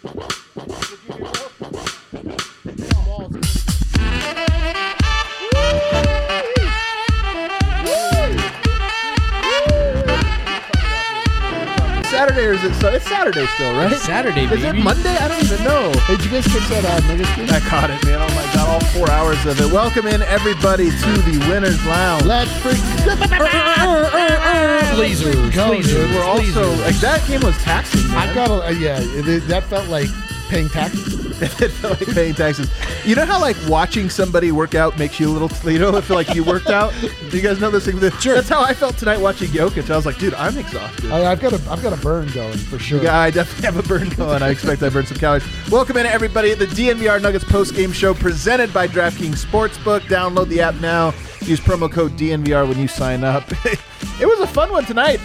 Saturday or is it? It's Saturday still, right? It's Saturday, baby. Is it Monday? I don't even know. Hey, did you guys catch that Nuggets game? I caught it, man. Oh my God, all 4 hours of it. Welcome in everybody to the Winners Lounge. Let's Lasers. go, Lasers. dude. We're also like that game was taxing, man. I've got that felt like paying taxes. It felt like paying taxes. You know how like watching somebody work out makes you a little, I feel like you worked out. Do you guys know this thing? Sure. That's how I felt tonight watching Jokic. I was like, dude, I'm exhausted. I've got a burn going for sure. Yeah, I definitely have a burn going. I expect I burned some calories. Welcome in everybody. The DNVR Nuggets post-game show presented by DraftKings Sportsbook. Download the app now. Use promo code DNVR when you sign up. It was a fun one tonight.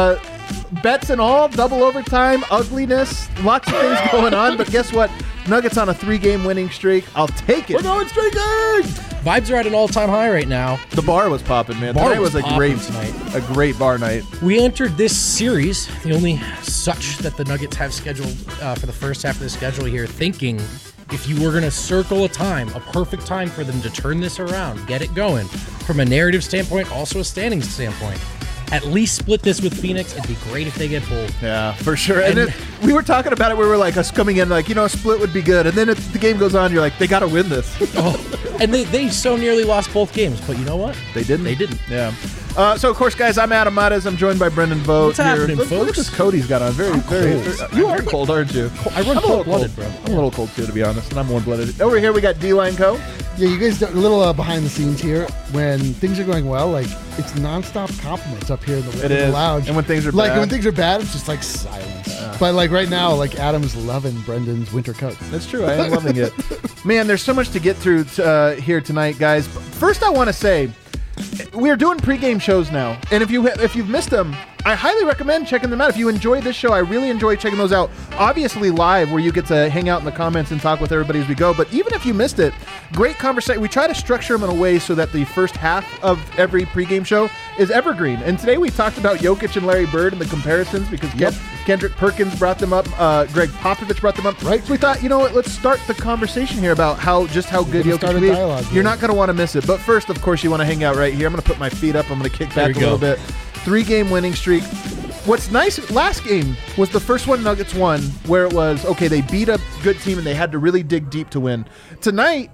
Bets and all, double overtime, ugliness, lots of things going on. But guess what? Nuggets on a 3-game winning streak. I'll take it. We're going streaking! Vibes are at an all-time high right now. The bar was popping, man. Bar Tonight was was popping tonight. a great bar night. We entered this series, the only such that the Nuggets have scheduled for the first half of the schedule here, thinking if you were going to circle a perfect time for them to turn this around, get it going, from a narrative standpoint, also a standings standpoint, at least split this with Phoenix. It'd be great if they get pulled. Yeah, for sure. And we were talking about it. We were like, us coming in like, a split would be good. And then the game goes on. You're like, they got to win this. And they so nearly lost both games. But you know what? They didn't. They didn't. Yeah. So, of course, guys, I'm Adam Mattes. I'm joined by Brendan Vogt. What's happening, Look at folks? this coat he's got on. Very. You are cold, aren't you? I run cold-blooded, bro. I'm a little cold, too, to be honest. And I'm warm-blooded. Over here, we got D-Line Co. Yeah, you guys, a little behind the scenes here. When things are going well, like, it's nonstop compliments up here in the lounge. And when things are like, bad. when things are bad, it's just like silence. But like right now, like Adam's loving Brendan's winter coat. That's true. I am loving it. Man, there's so much to get through here tonight, guys. First, I want to say, we're doing pregame shows now. And if you've missed them, I highly recommend checking them out. If you enjoy this show, I really enjoy checking those out. Obviously live, where you get to hang out in the comments and talk with everybody as we go. But even if you missed it, great conversation. We try to structure them in a way so that the first half of every pregame show is evergreen. And today we talked about Jokic and Larry Bird and the comparisons because Kendrick Perkins brought them up. Greg Popovich brought them up. Right. So we thought, let's start the conversation here about how good Jokic is. You're not going to want to miss it. But first, of course, you want to hang out right here. I'm going to put my feet up. I'm going to kick back a little bit. 3-game winning streak. What's nice, last game was the first one Nuggets won, where it was, okay, they beat a good team and they had to really dig deep to win. Tonight,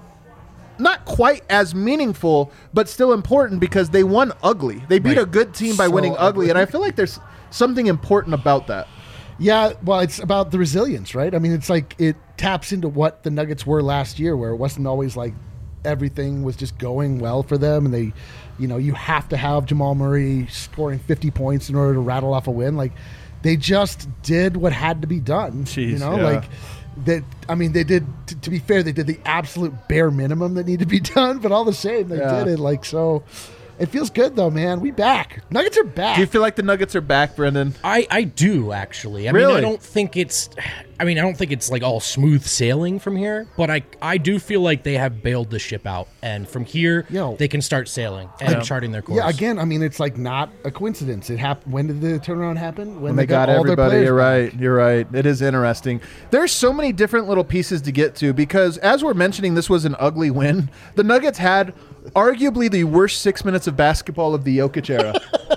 not quite as meaningful, but still important because they won ugly. They beat a good team by winning ugly, and I feel like there's something important about that. Yeah, well, it's about the resilience, right? I mean, it's like it taps into what the Nuggets were last year, where it wasn't always like everything was just going well for them, and they, you have to have Jamal Murray scoring 50 points in order to rattle off a win. Like, they just did what had to be done. Like that. I mean, they did. To be fair, they did the absolute bare minimum that needed to be done, but all the same, they did it. Like, so. It feels good, though, man. We back. Nuggets are back. Do you feel like the Nuggets are back, Brendan? I do, actually. I really? mean, I don't think it's like all smooth sailing from here, but I do feel like they have bailed the ship out, and from here they can start sailing and charting their course. Yeah, again, I mean, it's like not a coincidence. It happened. When did the turnaround happen? When they got all everybody. You're right. It is interesting. There's so many different little pieces to get to because, as we're mentioning, this was an ugly win. The Nuggets had arguably the worst 6 minutes of basketball of the Jokic era.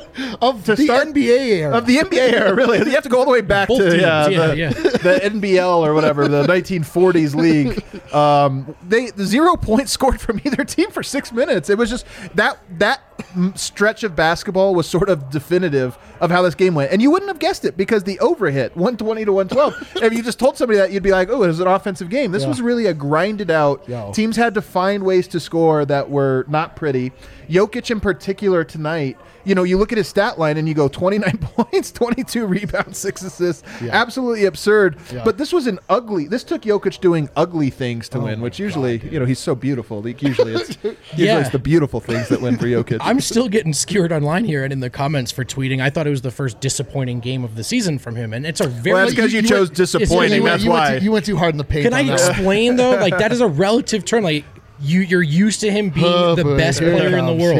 NBA era. Of the NBA era, really. You have to go all the way back to the NBL or whatever, the 1940s league. The 0 points scored from either team for 6 minutes. It was just that stretch of basketball was sort of definitive of how this game went. And you wouldn't have guessed it because the over hit, 120 to 112. If you just told somebody that, you'd be like, oh, it was an offensive game. This was really a grinded out. Teams had to find ways to score that were not pretty. Jokic in particular tonight, you look at his stat line and you go 29 points, 22 rebounds, 6 assists. Absolutely absurd. But this was this took Jokic doing ugly things to win, which usually, he's so beautiful. Usually it's the beautiful things that win for Jokic. I'm still getting skewered online here and in the comments for tweeting. I thought it was the first disappointing game of the season from him, and it's a very. Well, that's because you chose disappointing. That's why you went too hard in the paint. Can I explain though? Like, that is a relative term. Like, you're used to him being the best player in the world.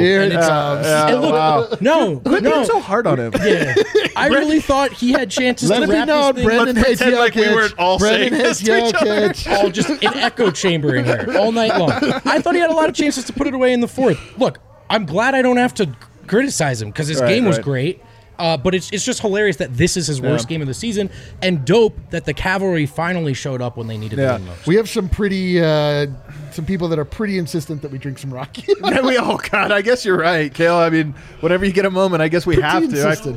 Quit being so hard on him. Yeah, I really thought he had chances to wrap this thing. Brendan Let's pretend like we weren't all saying this to each other. All just an echo chamber in here all night long. I thought he had a lot of chances to put it away in the fourth. Look, I'm glad I don't have to criticize him because his game was great. But it's just hilarious that this is his worst game of the season, and dope that the Cavalry finally showed up when they needed them most. We have some pretty some people that are pretty insistent that we drink some Rocky. God, I guess you're right, Kale. I mean, whenever you get a moment, I guess we have to. Insistent.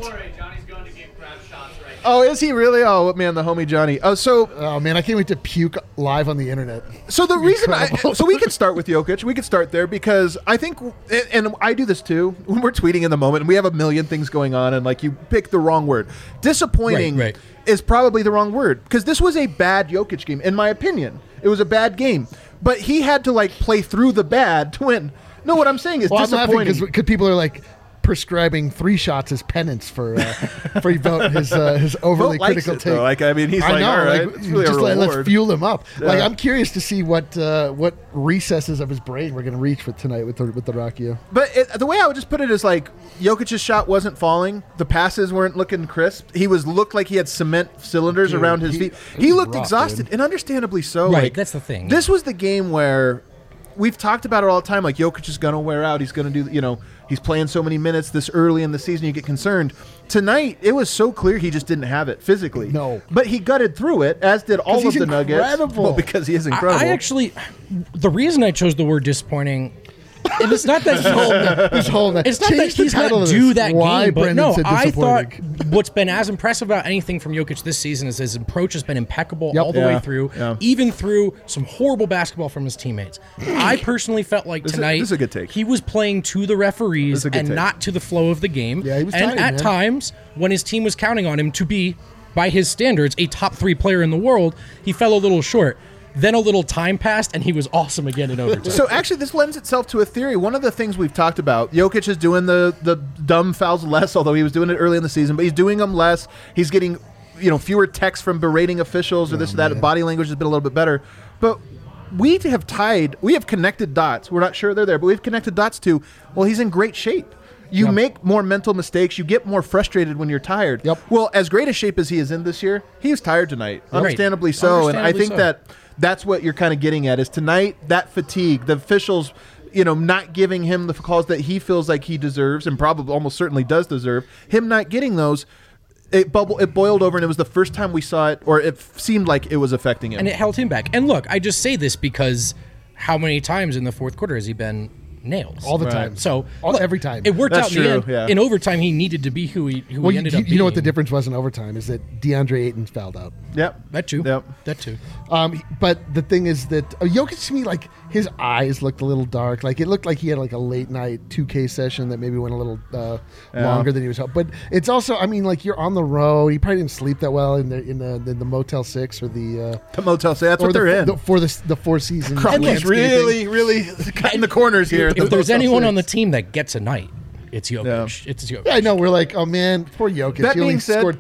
Oh, is he really? Oh, man, the homie Johnny. Oh, man, I can't wait to puke live on the internet. So the reason so we could start with Jokic. We could start there because I think, and I do this too, when we're tweeting in the moment and we have a million things going on and like you pick the wrong word. Disappointing is probably the wrong word because this was a bad Jokic game, in my opinion. It was a bad game. But he had to like play through the bad to win. No, what I'm saying is disappointing. Because people are like prescribing 3 shots as penance for his overly critical take. Like, I mean, he's all right, it's really just a reward. Let's fuel him up. Yeah. Like, I'm curious to see what recesses of his brain we're going to reach with tonight with the Rocky. But the way I would just put it is like Jokic's shot wasn't falling. The passes weren't looking crisp. He looked like he had cement cylinders around his feet. He looked exhausted, and understandably so. Right, like, that's the thing. This was the game where we've talked about it all the time. Like, Jokic is going to wear out. He's going to do, he's playing so many minutes this early in the season, you get concerned. Tonight, it was so clear he just didn't have it physically. No. But he gutted through it, as did all of the Nuggets. Well, because he is incredible. I actually, the reason I chose the word disappointing, and it's not that it's not that he's not due that game, but no, I thought what's been as impressive about anything from Jokic this season is his approach has been impeccable all the way through, even through some horrible basketball from his teammates. I personally felt like tonight this is a good take. He was playing to the referees and not to the flow of the game. Yeah, he was and at times, when his team was counting on him to be, by his standards, a top 3 player in the world, he fell a little short. Then a little time passed, and he was awesome again in overtime. So actually, this lends itself to a theory. One of the things we've talked about, Jokic is doing the dumb fouls less, although he was doing it early in the season, but he's doing them less. He's getting fewer texts from berating officials or this or that. Body language has been a little bit better. But we have connected dots. We're not sure they're there, but we've connected dots to, well, he's in great shape. You make more mental mistakes. You get more frustrated when you're tired. Yep. Well, as great a shape as he is in this year, he was tired tonight. Understandably so. And I think that's what you're kind of getting at is tonight, that fatigue, the officials, not giving him the calls that he feels like he deserves and probably almost certainly does deserve, him not getting those, it boiled over, and it was the first time we saw it, or it seemed like it was affecting him. And it held him back. And look, I just say this because how many times in the fourth quarter has he been nails all the time? So every time it worked out in the end. Yeah. In overtime, he needed to be who he ended up being. You know what the difference was in overtime is that DeAndre Ayton fouled out. Yep, that too. Yep, that too. But the thing is that Jokic, to me, like his eyes looked a little dark. Like it looked like he had like a late night 2K session that maybe went a little longer than he was. But it's also, I mean, like you're on the road. He probably didn't sleep that well in the Motel 6 or the Motel 6. That's what they're in for the Four Seasons. Crumbles really cutting the corners here. If there's anyone on the team that gets a night, it's Jokic. Yeah. It's Jokic. Yeah, I know. We're like, oh man, poor Jokic. That he only being said, scored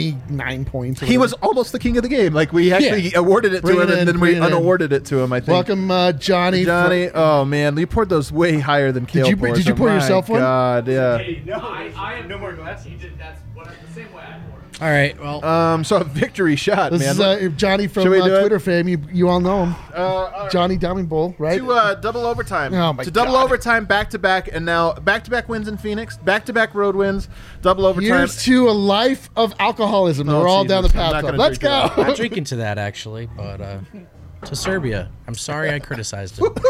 29 points. He was almost the king of the game. Like we actually awarded it to him, and then we unawarded it to him. I think. Welcome, Johnny. Johnny, oh man, you poured those way higher than Kale. Did you pour yourself one? God, yeah. Hey, no, I have no more glass. He did. That's the same way I poured. All right. Well, so a victory shot, this man. Is Johnny from Twitter fame. You all know him. Johnny Diamond Bull, right? To double overtime. Oh my to double overtime, back to back, and now back to back wins in Phoenix, back to back road wins, double overtime. Here's to a life of alcoholism. We're all down the path. Let's go. I'm not drinking to that actually, but to Serbia. I'm sorry I criticized him.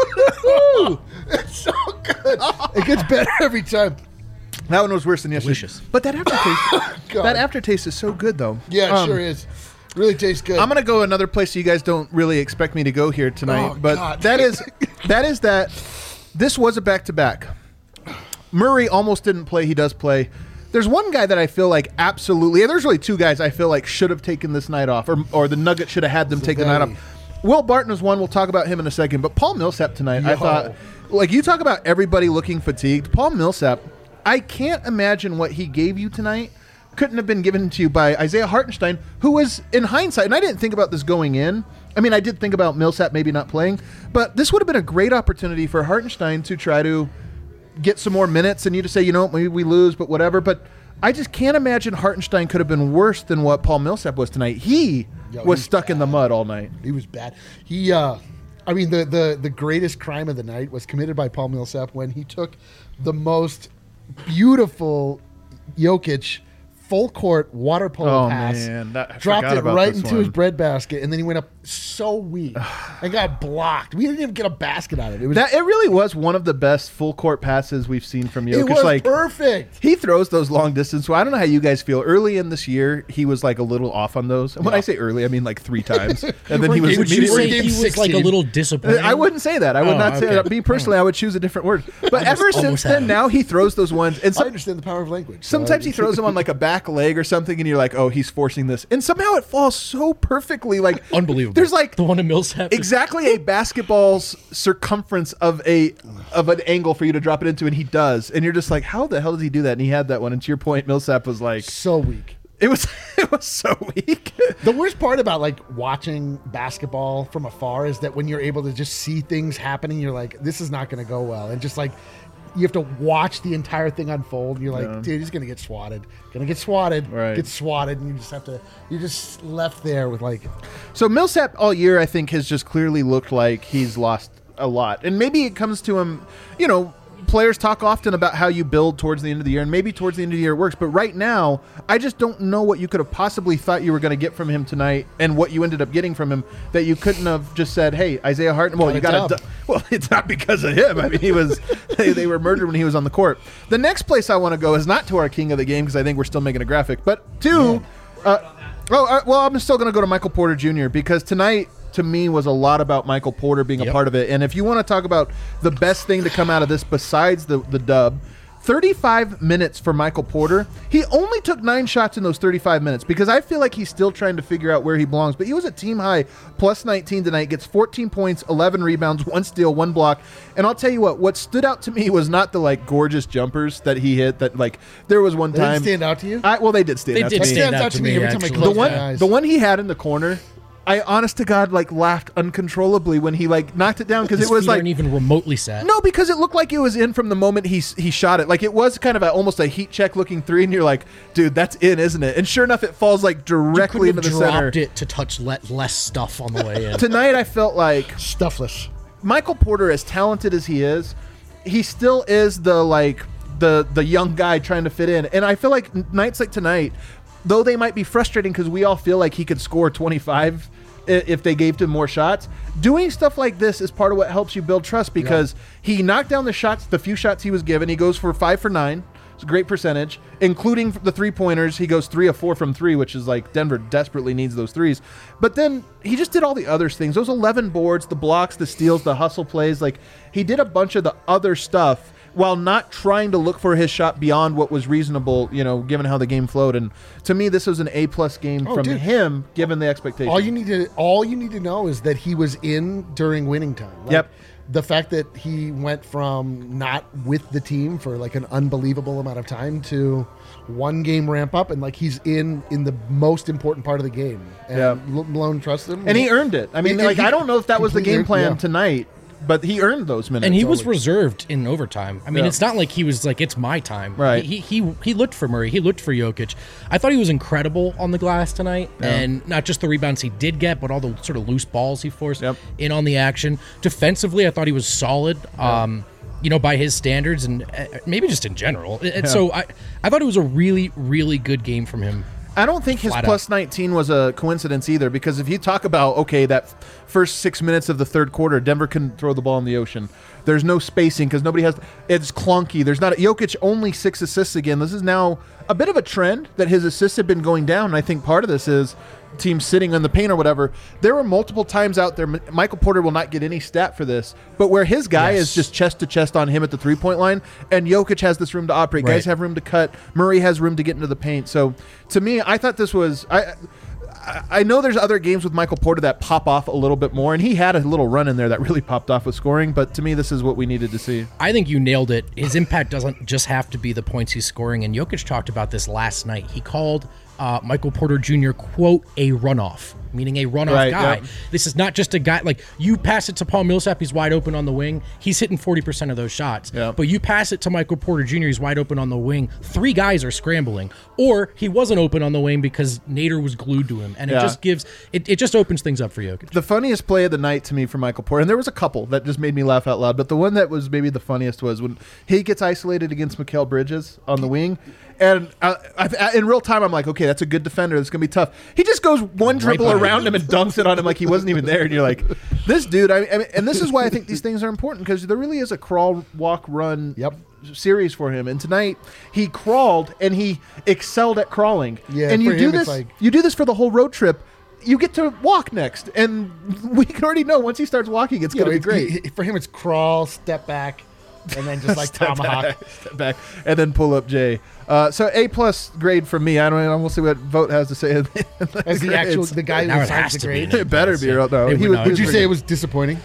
It's so good. It gets better every time. That one was worse than yesterday. Delicious. But that aftertaste is so good, though. Yeah, it sure is. Really tastes good. I'm going to go another place you guys don't really expect me to go here tonight. This was a back-to-back. Murray almost didn't play. He does play. There's one guy that I feel like absolutely, there's really two guys I feel like should have taken this night off, or the Nuggets should have had them take the night off. Will Barton was one. We'll talk about him in a second. But Paul Millsap tonight, I thought, like you talk about everybody looking fatigued. Paul Millsap, I can't imagine what he gave you tonight couldn't have been given to you by Isaiah Hartenstein, who was, in hindsight, and I didn't think about this going in, I mean, I did think about Millsap maybe not playing, but this would have been a great opportunity for Hartenstein to try to get some more minutes and you to say, you know, maybe we lose, but whatever. But I just can't imagine Hartenstein could have been worse than what Paul Millsap was tonight. He was stuck in the mud all night. He was bad. He, I mean, the greatest crime of the night was committed by Paul Millsap when he took the most beautiful Jokic full court water polo pass, dropped it right into his breadbasket, and then he went up so weak and got blocked. We didn't even get a basket out of it. It really was one of the best full court passes we've seen from Jokic. It was perfect. He throws those long distance. So I don't know how you guys feel. Early in this year, he was like a little off on those. And when I say early, I mean like 3 times. And then he was Would you say he was like a little disappointed? I wouldn't say that. I would not say that. Me personally, I would choose a different word. But ever since then, now he throws those ones. And I understand the power of language. Sometimes he throws them on like a back leg or something, and you're like, oh, he's forcing this. And somehow it falls so perfectly. Like unbelievable. There's like the one in Millsap. Exactly a basketball's circumference of an angle for you to drop it into, and he does. And you're just like, how the hell does he do that? And he had that one. And to your point, Millsap was like so weak. It was so weak. The worst part about like watching basketball from afar is that when you're able to just see things happening, you're like, this is not going to go well. And just like you have to watch the entire thing unfold. And you're like, dude, he's going to get swatted. Get swatted. And you're just left there with like. So Millsap all year, I think, has just clearly looked like he's lost a lot. And maybe it comes to him, you know, players talk often about how you build towards the end of the year, and maybe towards the end of the year it works. But right now, I just don't know what you could have possibly thought you were going to get from him tonight, and what you ended up getting from him that you couldn't have just said, "Hey, Isaiah Harden." Well, you got to. Well, it's not because of him. I mean, he was. they were murdered when he was on the court. The next place I want to go is not to our king of the game because I think we're still making a graphic, but to. Well, I'm still going to go to Michael Porter Jr. because tonight, to me, was a lot about Michael Porter being a part of it. And if you want to talk about the best thing to come out of this besides the dub, 35 minutes for Michael Porter. He only took 9 shots in those 35 minutes because I feel like he's still trying to figure out where he belongs. But he was a team high plus 19 tonight, gets 14 points, 11 rebounds, 1 steal, 1 block. And I'll tell you what stood out to me was not the like gorgeous jumpers that he hit. That like there was one time. They didn't stand out to you? Well, they did stand out to me. They stand out to me every time I close my eyes. The one he had in the corner. I, honest to God, like laughed uncontrollably when he like knocked it down because it was like even remotely set. No, because it looked like it was in from the moment he shot it. Like it was kind of almost a heat check looking 3, and you're like, dude, that's in, isn't it? And sure enough, it falls like directly into the center. Dropped it to touch less stuff on the way in. Tonight, I felt like stuffless. Michael Porter, as talented as he still is the young guy trying to fit in. And I feel like nights like tonight, though they might be frustrating because we all feel like he could score 25 if they gave him more shots, doing stuff like this is part of what helps you build trust because he knocked down the few shots he was given. He goes for 5 for 9. It's a great percentage, including the 3-pointers. He goes 3 of 4 from 3, which is like Denver desperately needs those threes. But then he just did all the other things. Those 11 boards, the blocks, the steals, the hustle plays. Like he did a bunch of the other stuff while not trying to look for his shot beyond what was reasonable, you know, given how the game flowed. And to me, this was an A+ game from him, given the expectation. All you need to know is that he was in during winning time. Like, the fact that he went from not with the team for like an unbelievable amount of time to 1 game ramp up, and like he's in the most important part of the game. And Malone trusts him, and he earned it. I mean, I don't know if that was the game plan tonight. But he earned those minutes. And he was reserved in overtime. I mean, it's not like he was like, it's my time. Right. He looked for Murray. He looked for Jokic. I thought he was incredible on the glass tonight. Yeah. And not just the rebounds he did get, but all the sort of loose balls he forced in on the action. Defensively, I thought he was solid. You know, by his standards and maybe just in general. And so I thought it was a really, really good game from him. I don't think his plus 19 was a coincidence either, because if you talk about, that first 6 minutes of the third quarter, Denver couldn't throw the ball in the ocean. There's no spacing because nobody has – it's clunky. There's not – Jokic only 6 assists again. This is now a bit of a trend that his assists have been going down, and I think part of this is teams sitting on the paint or whatever. There were multiple times out there – Michael Porter will not get any stat for this, but where his guy is just chest-to-chest on him at the three-point line, and Jokic has this room to operate. Guys have room to cut. Murray has room to get into the paint. So, to me, I thought this was – I know there's other games with Michael Porter that pop off a little bit more, and he had a little run in there that really popped off with scoring, but to me, this is what we needed to see. I think you nailed it. His impact doesn't just have to be the points he's scoring, and Jokic talked about this last night. He called Michael Porter Jr., quote, a runoff, meaning a runoff guy. Yep. This is not just a guy, like, you pass it to Paul Millsap, he's wide open on the wing, he's hitting 40% of those shots. Yep. But you pass it to Michael Porter Jr., he's wide open on the wing, 3 guys are scrambling. Or he wasn't open on the wing because Nader was glued to him. And it just gives, it just opens things up for Jokic. The funniest play of the night to me for Michael Porter, and there was a couple that just made me laugh out loud, but the one that was maybe the funniest was when he gets isolated against Mikal Bridges on the wing. And in real time, I'm like, okay, that's a good defender. That's going to be tough. He just goes one dribble around him and dunks it on him like he wasn't even there. And you're like, this dude, I mean, and this is why I think these things are important, because there really is a crawl, walk, run series for him. And tonight, he crawled and he excelled at crawling. Yeah, and you do this. You do this for the whole road trip. You get to walk next, and we can already know once he starts walking, it's going to be great. For him, it's crawl, step back, and then just like tomahawk, step back, and then pull up Jay. So A+ grade from me. I don't know. We'll see what Vogt has to say. As the guy who assigns the grade. It better be. No, would you say it was disappointing?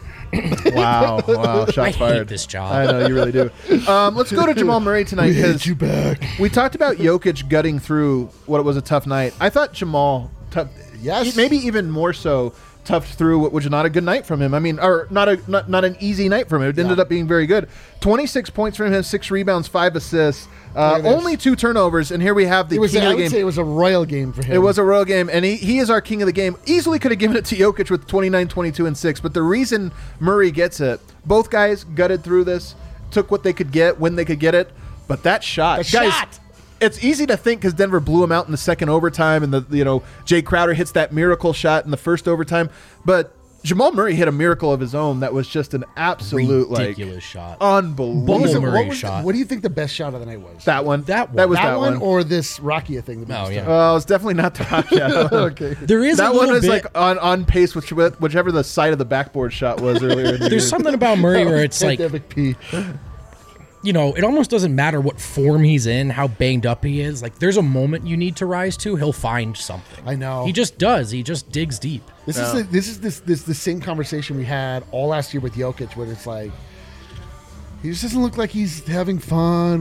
Wow, shots fired. I hate this job. I know, you really do. Let's go to Jamal Murray tonight. We hate you back. We talked about Jokic gutting through what was a tough night. I thought Jamal, maybe even more so, toughed through what was not a good night from him. I mean, or not an easy night from him. It ended up being very good. 26 points from him, 6 rebounds, 5 assists, only 2 turnovers, and here we have the king of the game. I would say it was a royal game for him. It was a royal game, and he is our king of the game. Easily could have given it to Jokic with 29, 22, and 6, but the reason Murray gets it, both guys gutted through this, took what they could get when they could get it, but that shot. It's easy to think because Denver blew him out in the second overtime, and Jay Crowder hits that miracle shot in the first overtime. But Jamal Murray hit a miracle of his own that was just an absolute ridiculous shot, unbelievable Murray shot. What do you think the best shot of the night was? That one. That one, or this Rakia thing? Oh, it's definitely not the Rakia. Okay. There is that one was like on pace with whichever the side of the backboard shot was earlier. In the There's something about Murray where it's like. It almost doesn't matter what form he's in, how banged up he is. Like, there's a moment you need to rise to, he'll find something. I know. He just does. He just digs deep. This is the same conversation we had all last year with Jokic, where it's like, he just doesn't look like he's having fun.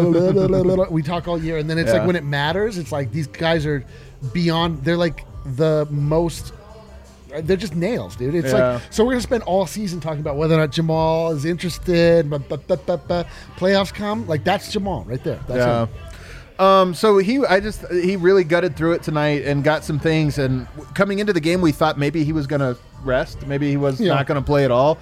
We talk all year, and then it's like when it matters, it's like these guys are beyond. They're like the most. They're just nails, dude. It's like, so we're going to spend all season talking about whether or not Jamal is interested. Playoffs come, like that's Jamal right there. That's him. So he really gutted through it tonight and got some things. And coming into the game, we thought maybe he was going to rest. Maybe he was not going to play at all.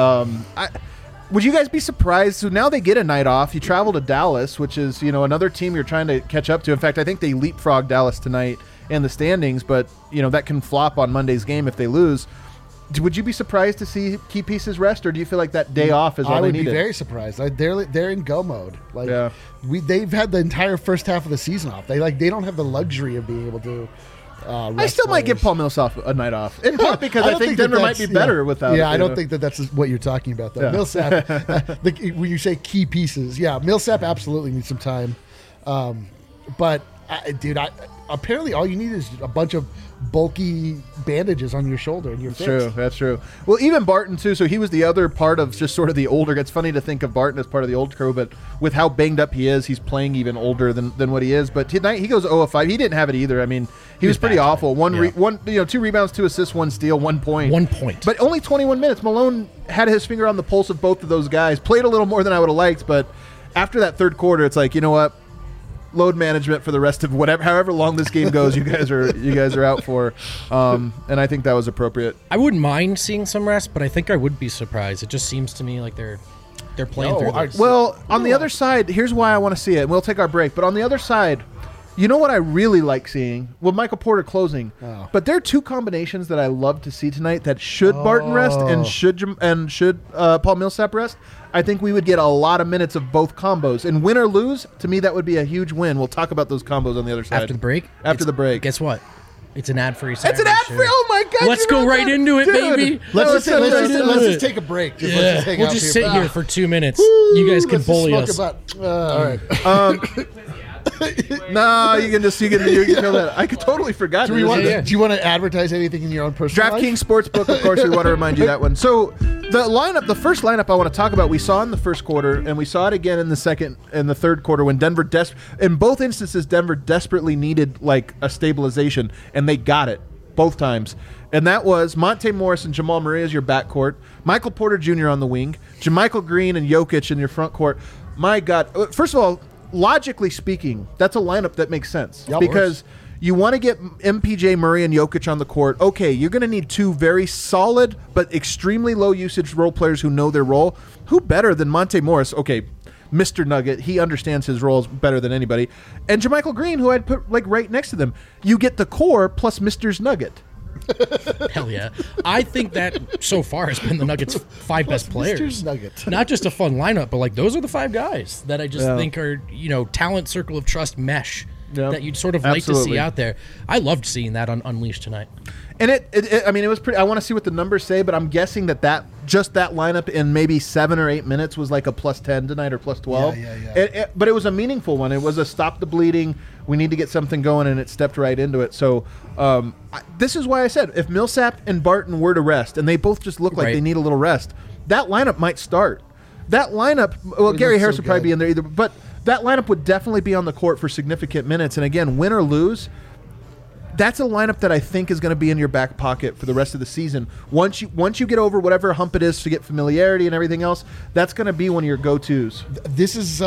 Would you guys be surprised? So now they get a night off. You travel to Dallas, which is another team you're trying to catch up to. In fact, I think they leapfrogged Dallas tonight in the standings, but that can flop on Monday's game if they lose. Would you be surprised to see key pieces rest, or do you feel like that day off is all they needed? I would be very surprised. They're in go mode. They've had the entire first half of the season off. They don't have the luxury of being able to. I still might give Paul Millsap a night off, in part because I think Denver might be better without it. Yeah, I don't think that's what you're talking about, though. Yeah. Millsap, when you say key pieces, Millsap absolutely needs some time. But, dude, apparently all you need is a bunch of bulky bandages on your shoulder and you're fixed. That's true. Well, even Barton too. So he was the other part of just sort of the older. It's funny to think of Barton as part of the old crew, but with how banged up he is, he's playing even older than what he is. But tonight he goes 0 of 5. He didn't have it either. I mean, he was pretty awful. 2 rebounds, 2 assists, 1 steal, 1 point. 1 point. But only 21 minutes. Malone had his finger on the pulse of both of those guys. Played a little more than I would have liked, but after that third quarter, it's like, you know what? Load management for the rest of however long this game goes. You guys are out for, and I think that was appropriate. I wouldn't mind seeing some rest, but I think I would be surprised. It just seems to me like they're playing through this. Well, on the other side, here's why I want to see it. And we'll take our break, but on the other side, you know what I really like seeing? Well, Michael Porter closing. Oh. But there are 2 combinations that I love to see tonight that should Barton rest and should Paul Millsap rest. I think we would get a lot of minutes of both combos. And win or lose, to me, that would be a huge win. We'll talk about those combos on the other side. After the break? After the break. Guess what? It's an ad-free Saturday. It's an ad-free. Oh my God! Let's go right into it, baby. Let's just take a break. We'll just sit here for 2 minutes. You guys can bully us. All right. No, you can kill that. I could totally forgot. Do you want to advertise anything in your own personal life? DraftKings Sportsbook, of course, we want to remind you that one. So The first lineup I want to talk about, we saw in the first quarter, and we saw it again in the second and the third quarter when Denver in both instances, Denver desperately needed like a stabilization, and they got it both times. And that was Monte Morris and Jamal Murray as your backcourt, Michael Porter Jr. on the wing, JaMychal Green and Jokic in your front court. My God. First of all, logically speaking, that's a lineup that makes sense because you want to get MPJ, Murray, and Jokic on the court. Okay, you're going to need two very solid but extremely low usage role players who know their role. Who better than Monte Morris? Okay, Mr. Nugget. He understands his roles better than anybody. And JaMychal Green, who I'd put like right next to them. You get the core plus Mr. Nugget. Hell yeah. I think that so far has been the Nuggets' 5 best players. Not just a fun lineup, but like those are the 5 guys that I just think are, talent circle of trust mesh. That you'd sort of like to see out there. I loved seeing that on Unleashed tonight. And it was pretty. I want to see what the numbers say, but I'm guessing that just that lineup in maybe 7 or 8 minutes was like a +10 tonight or +12. Yeah. But it was a meaningful one. It was a stop the bleeding. We need to get something going, and it stepped right into it. So this is why I said if Millsap and Barton were to rest, and they both just look like they need a little rest, that lineup might start. That lineup. Well, Gary Harris would probably be in there either, but. That lineup would definitely be on the court for significant minutes. And again, win or lose, that's a lineup that I think is going to be in your back pocket for the rest of the season. Once you get over whatever hump it is to get familiarity and everything else, that's going to be one of your go-tos. This is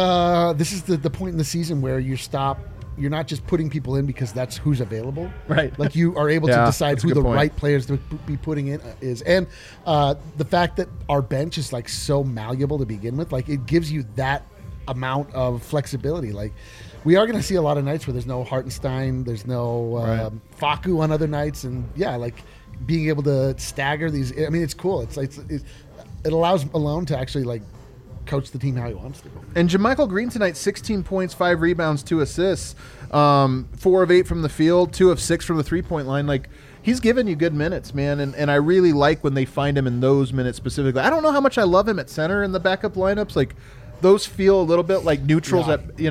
the point in the season where you're not just putting people in because that's who's available. Right. Like you are able to decide who the right players to be putting in is. And the fact that our bench is like so malleable to begin with, like it gives you that amount of flexibility. Like we are going to see a lot of nights where there's no Hartenstein, there's no Facu on other nights, and like being able to stagger these. I mean, it's cool. It allows Malone to actually like coach the team how he wants to. And JaMychal Green tonight, 16 points, 5 rebounds, 2 assists, 4 of 8 from the field, 2 of 6 from the 3-point line. Like he's given you good minutes, man, and I really like when they find him in those minutes specifically. I don't know how much I love him at center in the backup lineups, like. Those feel a little bit like neutrals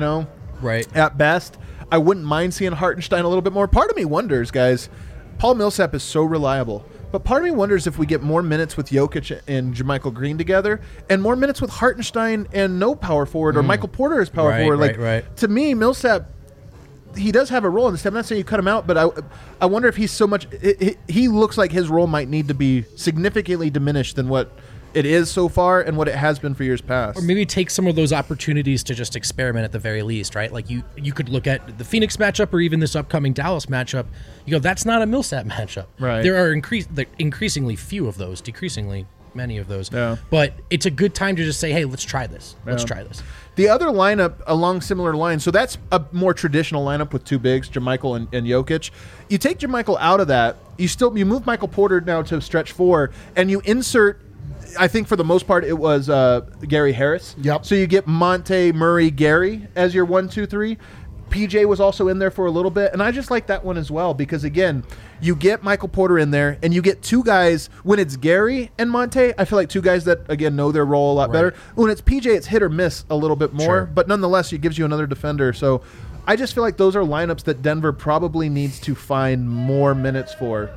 at best. I wouldn't mind seeing Hartenstein a little bit more. Part of me wonders, guys, Paul Millsap is so reliable, but part of me wonders if we get more minutes with Jokic and JaMychal Green together and more minutes with Hartenstein and no power forward or Michael Porter as power forward. To me, Millsap, he does have a role in this. I'm not saying you cut him out, but I wonder if he's so much he looks like his role might need to be significantly diminished than what it is so far and what it has been for years past. Or maybe take some of those opportunities to just experiment at the very least, right? Like you could look at the Phoenix matchup or even this upcoming Dallas matchup. You go, that's not a Millsap matchup. Right. There are increasingly few of those, decreasingly many of those. Yeah. But it's a good time to just say, hey, let's try this. Let's try this. The other lineup along similar lines, so that's a more traditional lineup with 2 bigs, JaMychal and Jokic. You take JaMychal out of that, you move Michael Porter now to stretch 4, and you insert, I think for the most part it was Gary Harris. Yep. So you get Monte, Murray, Gary as your 1, 2, 3. PJ was also in there for a little bit, and I just like that one as well because, again, you get Michael Porter in there, and you get 2 guys. When it's Gary and Monte, I feel like 2 guys that, again, know their role a lot better. When it's PJ, it's hit or miss a little bit more, but nonetheless, it gives you another defender. So I just feel like those are lineups that Denver probably needs to find more minutes for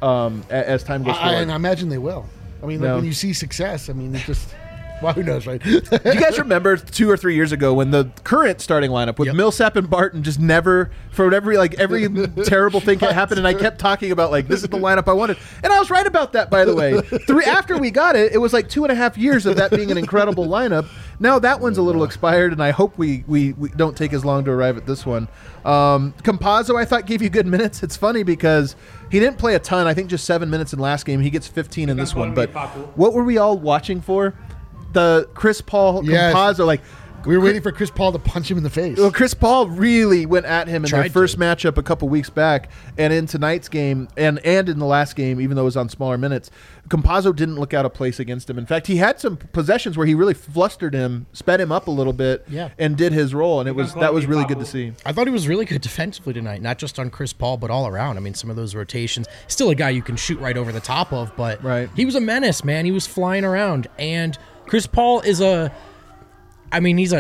as time goes forward. And I imagine they will. I mean, like when you see success, I mean, it's just... Well, who knows, right? Do you guys remember 2 or 3 years ago when the current starting lineup with Millsap and Barton just never, for every terrible thing that happened, and I kept talking about this is the lineup I wanted, and I was right about that, by the way. After we got it, it was like 2.5 years of that being an incredible lineup. Now that one's a little expired, and I hope we don't take as long to arrive at this one. Campazzo, I thought, gave you good minutes. It's funny because he didn't play a ton. I think just 7 minutes in last game. He gets 15 in this one. But what were we all watching for? The Chris Paul Campazzo, we were waiting for Chris Paul to punch him in the face. Well, Chris Paul really went at him in their first matchup a couple weeks back, and in tonight's game, and in the last game, even though it was on smaller minutes, Campazzo didn't look out of place against him. In fact, he had some possessions where he really flustered him, sped him up a little bit, and did his role, and that was really good to see. I thought he was really good defensively tonight, not just on Chris Paul, but all around. I mean, some of those rotations, still a guy you can shoot right over the top of, but he was a menace, man. He was flying around, and Chris Paul is he's a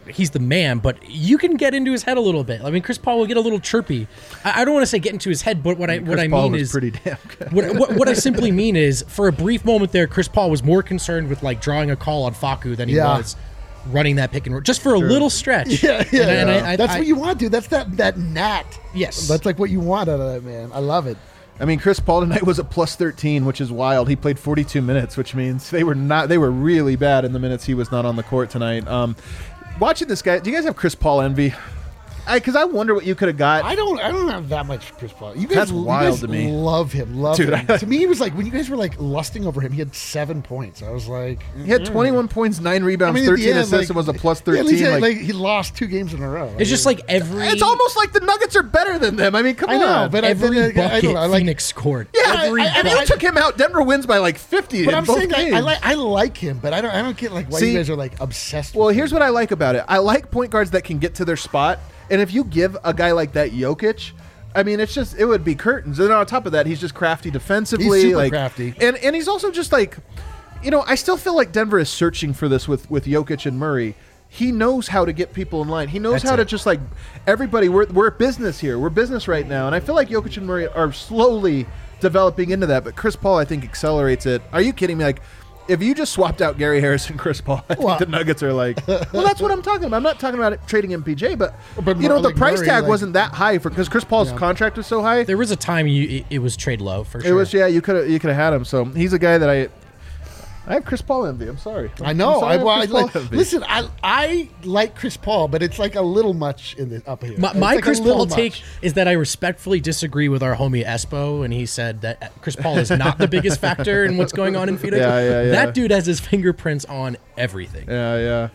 he's the man, but you can get into his head a little bit. I mean, Chris Paul will get a little chirpy. I don't want to say get into his head, but what I mean is pretty damn good. What I simply mean is, for a brief moment there, Chris Paul was more concerned with like drawing a call on Facu than he was running that pick and roll, just for a little stretch. That's what you want, dude. That's that gnat. Yes, that's like what you want out of that man. I love it. I mean, Chris Paul tonight was a plus 13, which is wild. He played 42 minutes, which means they were really bad in the minutes he was not on the court tonight. Watching this guy, do you guys have Chris Paul envy? Because I wonder what you could have got. I don't have that much Chris Paul. You guys, That's wild to me. Love him, Dude, him. To me, it was like when you guys were like lusting over him. He had 7 points. I was like, he had 21 points, 9 rebounds, 13 assists, and was a plus 13. Yeah, he lost 2 games in a row. It's just like every. It's almost like the Nuggets are better than them. I mean, come on. I know, but every bucket Phoenix scored. Yeah, I mean, you took him out. Denver wins by like 50. But I'm saying games. I like him, but I don't get like why you guys are like obsessed. Well, with here's what I like about it. I like point guards that can get to their spot. And if you give a guy like that Jokic, I mean, it would be curtains. And on top of that, he's just crafty defensively. He's super crafty. And he's also just like, I still feel like Denver is searching for this with Jokic and Murray. He knows how to get people in line. He knows how to just like, everybody, we're a business here. We're business right now. And I feel like Jokic and Murray are slowly developing into that. But Chris Paul, I think, accelerates it. Are you kidding me? Like, if you just swapped out Gary Harris and Chris Paul, I think the Nuggets are like, well, that's what I'm talking about. I'm not talking about trading MPJ, but the price tag wasn't that high because Chris Paul's contract was so high. There was a time it was trade low for sure. It was, you could have had him. So he's a guy that I have Chris Paul envy. I'm sorry. I know. Listen, I like Chris Paul, but it's like a little much in the up here. My Chris Paul take is that I respectfully disagree with our homie Espo, and he said that Chris Paul is not the biggest factor in what's going on in Phoenix. That dude has his fingerprints on everything. Yeah.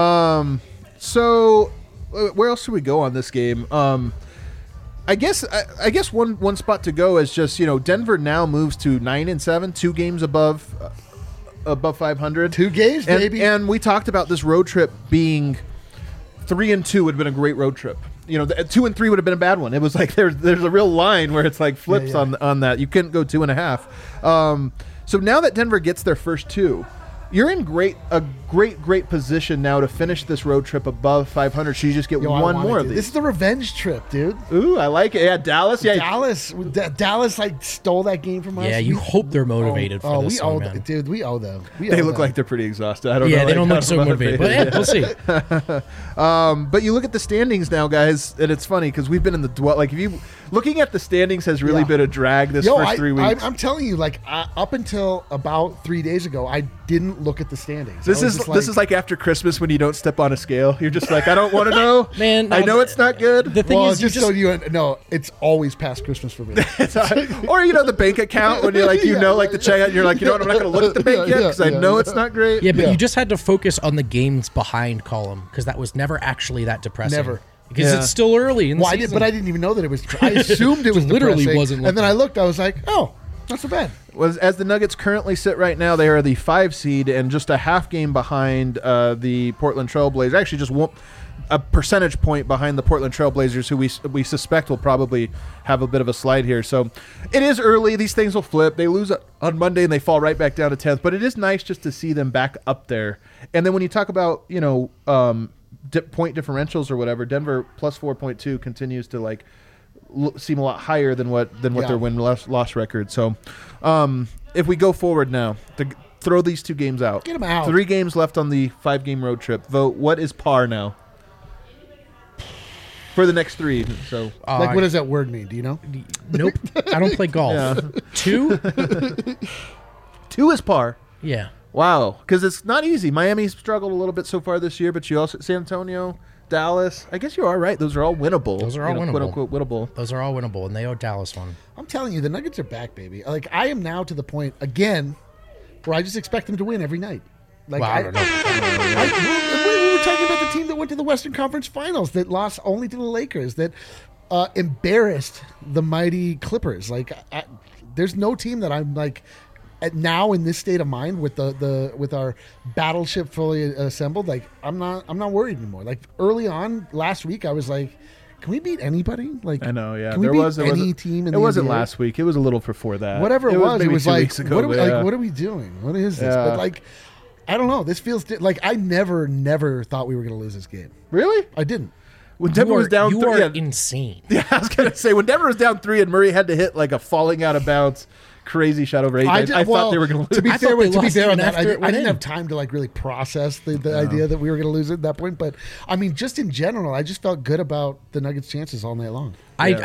So where else should we go on this game? I guess one spot to go is just Denver now moves to 9-7, 2 games above 500. 2 games, maybe. And we talked about this road trip being 3-2 would have been a great road trip. 2-3 would have been a bad one. It was like there's a real line where it's like flips on that. You couldn't go 2.5. So now that Denver gets their first 2, you're in a great position now to finish this road trip above 500. So you just get one more of these. This is the revenge trip, dude. Ooh, I like it. Yeah, Dallas. Yeah, Dallas like stole that game from us. Yeah, you hope they're motivated for this. Dude, we owe them. They look like they're pretty exhausted. I don't know. Yeah, they don't look so motivated. But we'll see. But you look at the standings now, guys, and it's funny because we've been in the looking at the standings has really been a drag this first 3 weeks. I'm telling you, like up until about 3 days ago, I didn't look at the standings. This is like after Christmas when you don't step on a scale. You're just like, I don't want to know. Man, I know it's not good. The thing is, it's always past Christmas for me. Or the bank account when you're like, like the checkout. You're like, I'm not going to look at the bank yet because I know it's not great. Yeah, but you just had to focus on the games behind column because that was never actually that depressing. Never. Because it's still early in the season. But I didn't even know that it was. I assumed it was literally depressing, wasn't. And then I looked. I was like, oh, not so bad. As the Nuggets currently sit right now, they are the 5 seed and just a half game behind the Portland Trailblazers. Actually, just a percentage point behind the Portland Trailblazers, who we suspect will probably have a bit of a slide here. So it is early. These things will flip. They lose on Monday and they fall right back down to 10th. But it is nice just to see them back up there. And then when you talk about point differentials or whatever, Denver plus 4.2 continues to seem a lot higher than what their win-loss record. So if we go forward now to throw these 2 games out, get them out. 3 games left on the 5-game road trip. Vote. What is par now for the next 3? So what does that word mean? Do you know? Nope. I don't play golf. Yeah. 2? 2 is par. Yeah. Wow, because it's not easy. Miami's struggled a little bit so far this year, but you also San Antonio, Dallas. I guess you are right. Those are all winnable. Those are all winnable. Quote unquote winnable. Those are all winnable, and they owe Dallas one. I'm telling you, the Nuggets are back, baby. Like I am now to the point again where I just expect them to win every night. Like I don't know. We were talking about the team that went to the Western Conference Finals that lost only to the Lakers, that embarrassed the mighty Clippers. Like there's no team that I'm like. Now in this state of mind with with our battleship fully assembled, like I'm not worried anymore. Like early on last week, I was like, can we beat anybody? Like I know, yeah. Can we beat any team in the NBA? It wasn't last week. It was a little before that. Whatever it was, it was like, ago, what are we doing? What is this? Yeah. But like, I don't know. This feels like I never thought we were going to lose this game. Really? I didn't. When Denver was down 3, you are insane. Yeah, I was going to say, when Denver was down 3 and Murray had to hit like a falling out of bounds crazy shot over 8, I thought they were going to lose. To be fair on that, I didn't have time to like really process the idea that we were going to lose at that point. But I mean, just in general, I just felt good about the Nuggets' chances all night long.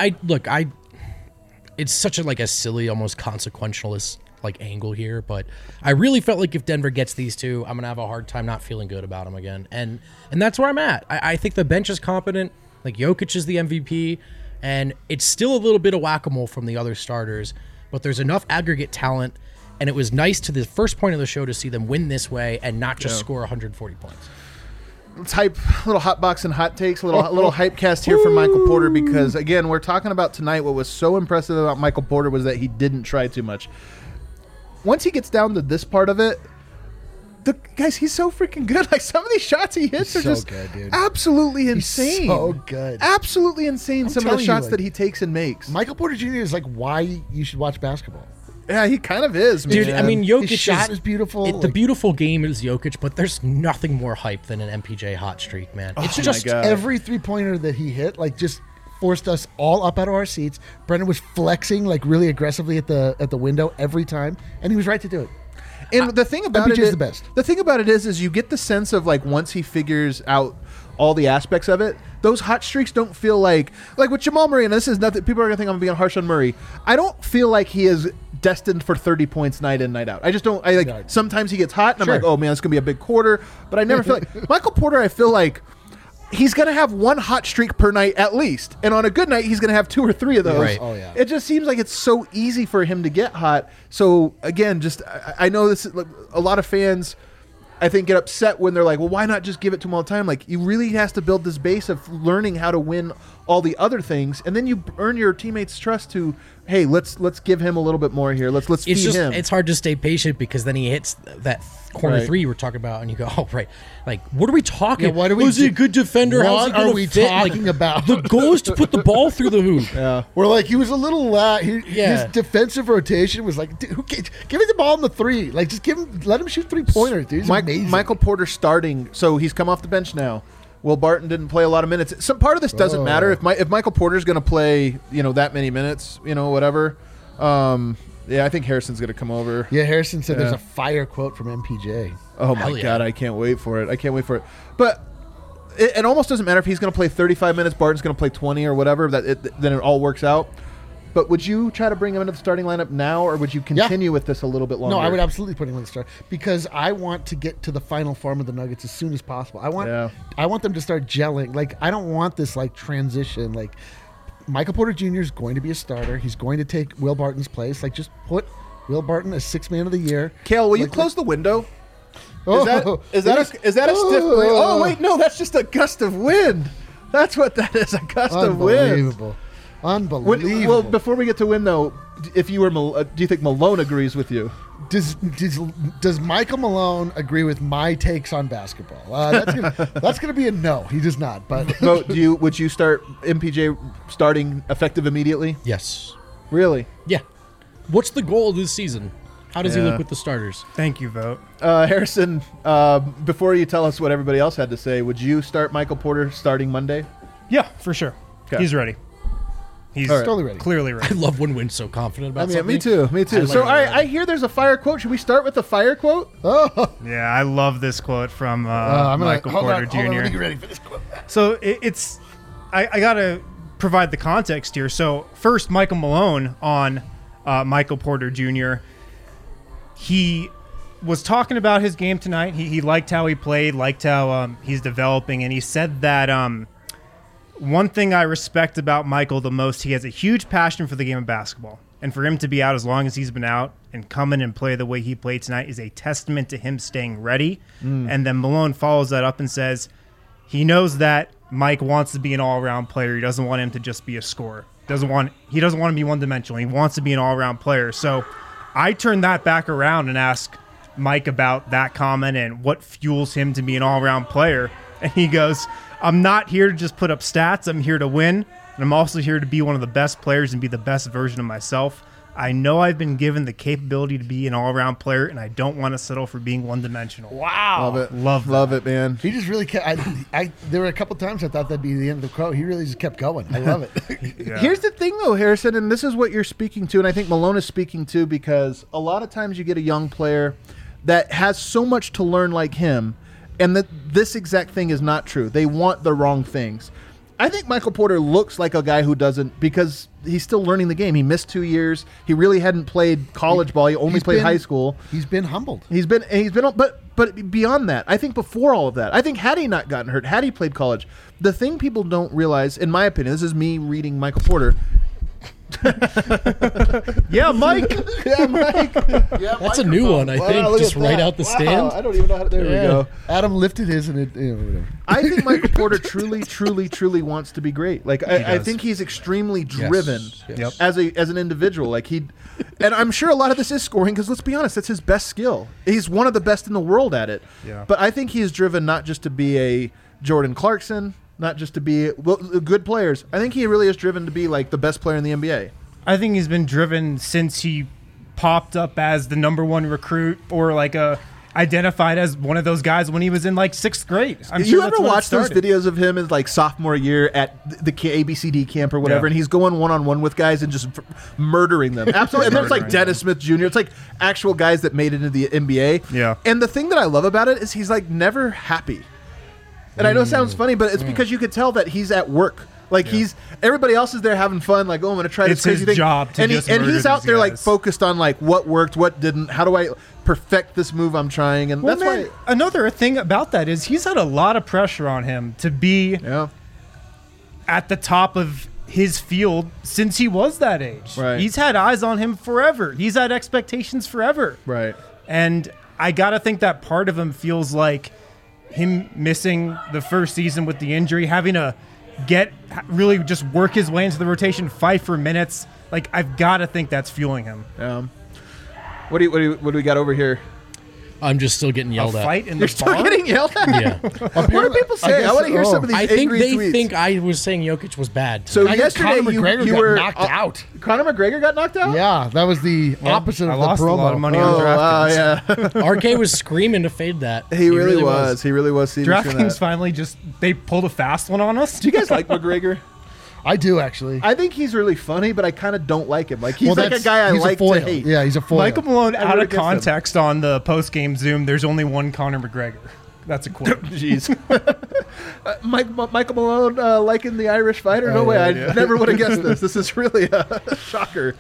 It's such a silly, almost consequentialist angle here, but I really felt like if Denver gets these two, I'm gonna have a hard time not feeling good about them again, and that's where I'm at. I think the bench is competent. Jokic is the MVP, and it's still a little bit of whack-a-mole from the other starters, but there's enough aggregate talent, and it was nice to the first point of the show to see them win this way and not just score 140 points. Let's hype a little hot box and hot takes, a little hype cast here for Michael Porter, because again, we're talking about tonight. What was so impressive about Michael Porter was that he didn't try too much. Once he gets down to this part of it, guys, he's so freaking good. Some of these shots he hits are so just good, dude. Absolutely insane. He's so good. Absolutely insane. Some of the shots that he takes and makes. Michael Porter Jr. is why you should watch basketball. Yeah, he kind of is, man. Dude, I mean, Jokic his shot is beautiful. The beautiful game is Jokic, but there's nothing more hype than an MPJ hot streak, man. It's just every 3-pointer that he hit, just forced us all up out of our seats. Brendan was flexing really aggressively at the window every time, and he was right to do it. And the thing about MPJ is the best. The thing about it is you get the sense of once he figures out all the aspects of it, those hot streaks don't feel like with Jamal Murray. And this is nothing. People are gonna think I'm being harsh on Murray. I don't feel like he is destined for 30 points night in, night out. I just don't. Sometimes he gets hot, and I'm like, oh man, it's gonna be a big quarter. But I never feel like Michael Porter. I feel like he's going to have one hot streak per night at least. And on a good night, he's going to have 2 or 3 of those. Right. Oh, yeah. It just seems like it's so easy for him to get hot. So, again, I know this is, a lot of fans, I think, get upset when they're like, well, why not just give it to him all the time? You really has to build this base of learning how to win all the other things. And then you earn your teammates' trust to, hey, let's give him a little bit more here. Let's feed him. It's hard to stay patient because then he hits that corner 3 you were talking about, and you go, oh, right. What are we talking about? Is he a good defender? How's he what are we talking about? The goal is to put the ball through the hoop. Yeah. We're he was a little, his defensive rotation was dude, give me the ball in the 3. Just let him shoot 3-pointers, dude. He's amazing. Michael Porter starting, so he's come off the bench now. Will Barton didn't play a lot of minutes. Some part of this doesn't matter. If Michael Porter's going to play, that many minutes, whatever. I think Harrison's going to come over. Yeah, Harrison said there's a fire quote from MPJ. Oh my God, I can't wait for it. But it almost doesn't matter if he's going to play 35 minutes, Barton's going to play 20 or whatever. Then it all works out. But would you try to bring him into the starting lineup now, or would you continue with this a little bit longer? No, I would absolutely put him in the start because I want to get to the final form of the Nuggets as soon as possible. I want them to start gelling. I don't want this transition. Michael Porter Jr. is going to be a starter. He's going to take Will Barton's place. Just put Will Barton as 6th man of the year. Kale, will you close the window? Is that a stiff breeze? Oh wait, no, that's just a gust of wind. That's what that is, a gust of wind. Unbelievable. Well, before we get to win, though, if you were, do you think Malone agrees with you? Does Michael Malone agree with my takes on basketball? That's gonna be a no. He does not. But would you start MPJ starting effective immediately? Yes. Really? Yeah. What's the goal of this season? How does he look with the starters? Thank you, Vote. Harrison, before you tell us what everybody else had to say, would you start Michael Porter starting Monday? Yeah, for sure. Okay. He's ready. He's totally ready. Clearly ready. I love when Wynn's so confident about something. Me too. So, all right, I hear there's a fire quote. Should we start with the fire quote? Oh. Yeah, I love this quote from Michael Porter Jr. Hold on, let me get ready for this quote. So I got to provide the context here. So first, Michael Malone on Michael Porter Jr. He was talking about his game tonight. He liked how he played, liked how he's developing, and he said that one thing I respect about Michael the most, he has a huge passion for the game of basketball. And for him to be out as long as he's been out and come in and play the way he played tonight is a testament to him staying ready. And then Malone follows that up and says he knows that Mike wants to be an all-around player. He doesn't want him to just be a scorer. He doesn't want to be one-dimensional. He wants to be an all-around player. So I turn that back around and ask Mike about that comment and what fuels him to be an all-around player. And he goes, I'm not here to just put up stats. I'm here to win. And I'm also here to be one of the best players and be the best version of myself. I know I've been given the capability to be an all-around player, and I don't want to settle for being one-dimensional. Wow. Love it. Love it, man. He just really kept. There were a couple times I thought that'd be the end of the quote. He really just kept going. I love it. Yeah. Here's the thing, though, Harrison, and this is what you're speaking to, and I think Malone is speaking to, because a lot of times you get a young player that has so much to learn like him, and that this exact thing is not true. They want the wrong things. I think Michael Porter looks like a guy who doesn't, because he's still learning the game. He missed 2 years. He really hadn't played college ball. He only played high school. He's been humbled. He's been, but beyond that, I think before all of that, I think had he not gotten hurt, had he played college, the thing people don't realize, in my opinion, this is me reading Michael Porter. Yeah, Mike. Yeah, Mike. Yeah, That's a new one, I think. Just right out the stand. I don't even know how to, there we go. Adam lifted his and it. Whatever. I think Michael Porter truly wants to be great. Like I think he's extremely driven Yes. as an individual. Like and I'm sure a lot of this is scoring, because let's be honest, that's his best skill. He's one of the best in the world at it. Yeah. But I think he is driven not just to be a Jordan Clarkson, not just to be good players. I think he really is driven to be like the best player in the NBA. I think he's been driven since he popped up as the number one recruit, or like identified as one of those guys when he was in like 6th grade. You ever watch those videos of him as like sophomore year at the ABCD camp or whatever, and he's going one-on-one with guys and just murdering them? Absolutely. And there's like Dennis Smith Jr. It's like actual guys that made it into the NBA. Yeah. And the thing that I love about it is he's like never happy. And I know it sounds funny, but it's because you could tell that he's at work. Like everybody else is there having fun. Like, oh, I'm going to try this crazy thing. It's his job to and just and he's murder out these there like guys. focused on like what worked, what didn't. How do I perfect this move I'm trying? And Well, that's man, why. another thing about that is he's had a lot of pressure on him to be at the top of his field since he was that age. Right. He's had eyes on him forever. He's had expectations forever. Right. And I got to think that part of him feels like him missing the first season with the injury, having to really just work his way into the rotation, fight for minutes. Like, I've got to think that's fueling him. What do we got over here? I'm just still getting yelled at. Fight in You're the still bar? getting yelled at? Yeah. What do people say? I want to hear some of these I think angry they tweets. think I was saying Jokic was bad. So I guess yesterday Conor McGregor you got were knocked out. Conor McGregor got knocked out? Yeah, that was the opposite I of the lost promo. a lot of money Oh, on wow, DraftKings. yeah. RK was screaming to fade that. He really was. He really was. Seeing DraftKings finally they pulled a fast one on us. Do you guys like McGregor? I do, actually. I think he's really funny, but I kind of don't like him. Like he's like a that's- guy I he's a like foil. to hate. Yeah, he's a foil. Michael Malone, I out root of against him. context on the post-game Zoom, there's only one Conor McGregor. That's a quote. Jeez. Michael Malone liking the Irish fighter? No way. I never would have guessed this. This is really a shocker.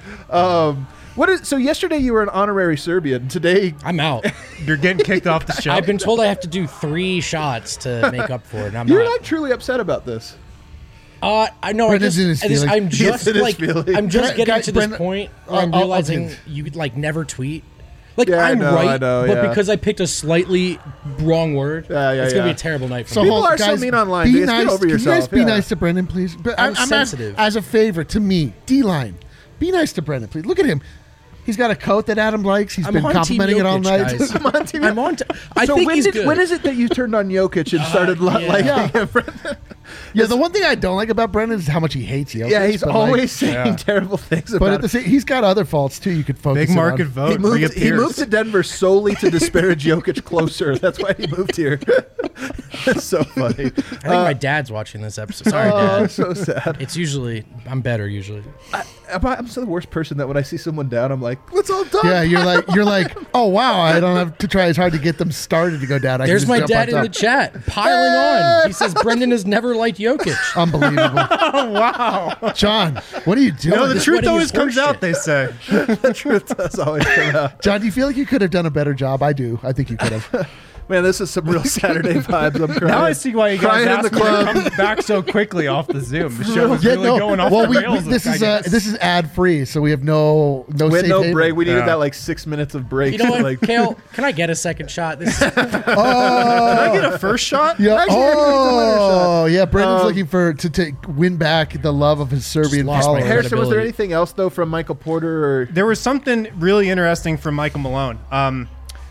So yesterday you were an honorary Serbian. Today I'm out. You're getting kicked off the show. I've been told I have to do 3 shots to make up for it. And I'm you're not. not truly upset about this. I know. Brendan's in his feelings. I'm just in his like feelings. I'm just getting Guys, to this Brendan, point where I'm I'll realizing take- you could like never tweet. Like Yeah, I I'm know, right, I know, but yeah. because I picked a slightly wrong word, Yeah, it's gonna be yeah. a terrible night for So me. People are so guys, mean online. Be Just get nice. over Can you yourself, guys be yeah. nice to Brendan, please? But I'm sensitive. As a favor to me, D-line, be nice to Brendan, please. Look at him. He's got a coat that Adam likes. He's I'm been on complimenting Team it all Jokic, night. guys. I'm on team. I'm on. I So think he's good. when is it that you turned on Jokic and started liking him? Yeah, the one thing I don't like about Brendan is how much he hates Jokic. Yeah, he's but, always like, saying terrible things But about at the same, he's got other faults too. You could focus Big in on. market vote. He moved reappears. to Denver solely to disparage Jokic closer. That's why he moved here. That's so funny. I think my dad's watching this episode. Sorry, Oh, Dad. so sad. It's usually I'm better usually. I'm so the worst person that when I see someone down, I'm like, let's all die. Yeah, you're like, oh wow, I don't have to try as hard to get them started to go down. I can There's just my jump dad on in the top. chat piling on. He says Brendan has never liked Jokic. Unbelievable. Wow. John, what are you doing? No, the This truth wedding always is comes horseshit. out, they say. The truth does always come out. John, do you feel like you could have done a better job? I do. I think you could have. Man, this is some real Saturday vibes. I'm crying. Now I see why you guys Crying in asked the me club. to come back so quickly off the Zoom. The show was really going off well, the rails. this I is guess. this is ad free, so we have no We had safe no haven. break. We needed Yeah. that like 6 minutes of break. You know what, Like, Kale? Can I get a second shot? This is, Can I get a first shot? Yeah. Actually, I could've done another Oh, yeah. Brendan's looking to win back the love of his Serbian lost my followers. hair. Harrison, was there credibility. anything else though from Michael Porter? Or There was something really interesting from Michael Malone.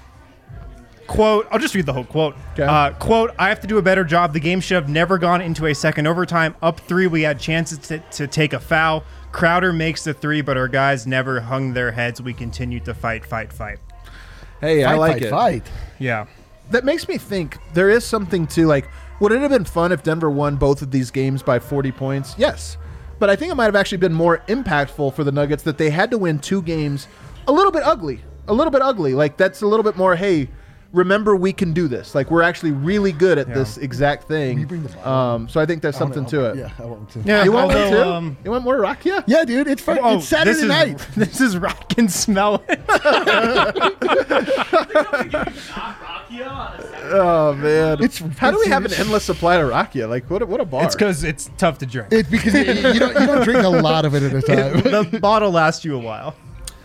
Quote, I'll just read the whole quote. Okay. Quote, I have to do a better job. The game should have never gone into a second overtime. Up 3, we had chances to take a foul. Crowder makes the three, but our guys never hung their heads. We continued to fight. Hey, I like it. Fight. Yeah. That makes me think there is something to, like, would it have been fun if Denver won both of these games by 40 points? Yes. But I think it might have actually been more impactful for the Nuggets that they had to win 2 games a little bit ugly. Like, that's a little bit more, hey, remember we can do this. Like, we're actually really good at this exact thing. You bring the bottle. So I think there's something to it. Yeah, I want to. Yeah. You want one although, too? You want more Rakia? Yeah, dude, it's fun. It's Saturday night. This is rock and smell it. Oh man, how do we have an it's- endless supply of Rakia? Like, what a bar. It's because it's tough to drink. It's because you don't drink a lot of it at a time. The bottle lasts you a while.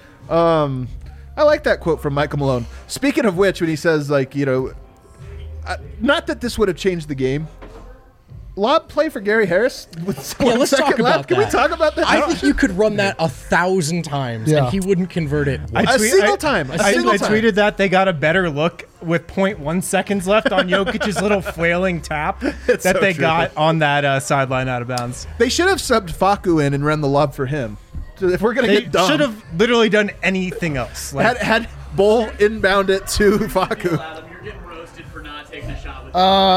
I like that quote from Michael Malone. Speaking of which, when he says, like, not that this would have changed the game. Lob play for Gary Harris with let's second talk about left. Can we that. talk about that? I think you could run that 1,000 times Yeah. and he wouldn't convert it. once. A single time. I tweeted that they got a better look with 0.1 seconds left on Jokic's little flailing tap that so they true. got on that sideline out of bounds. They should have subbed Facu in and run the lob for him. So if we're gonna They get dumb, should have literally done anything else. Like, had Bull inbound it to Facu. Adam, you're getting roasted for not taking a shot with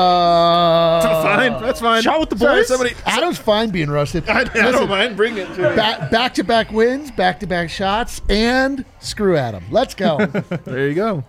Fine, that's fine. Shot with the Sorry, boys? somebody. Adam's fine being roasted. I don't mind. Bring it to me. Back-to-back wins, back-to-back shots, and screw Adam. Let's go. There you go.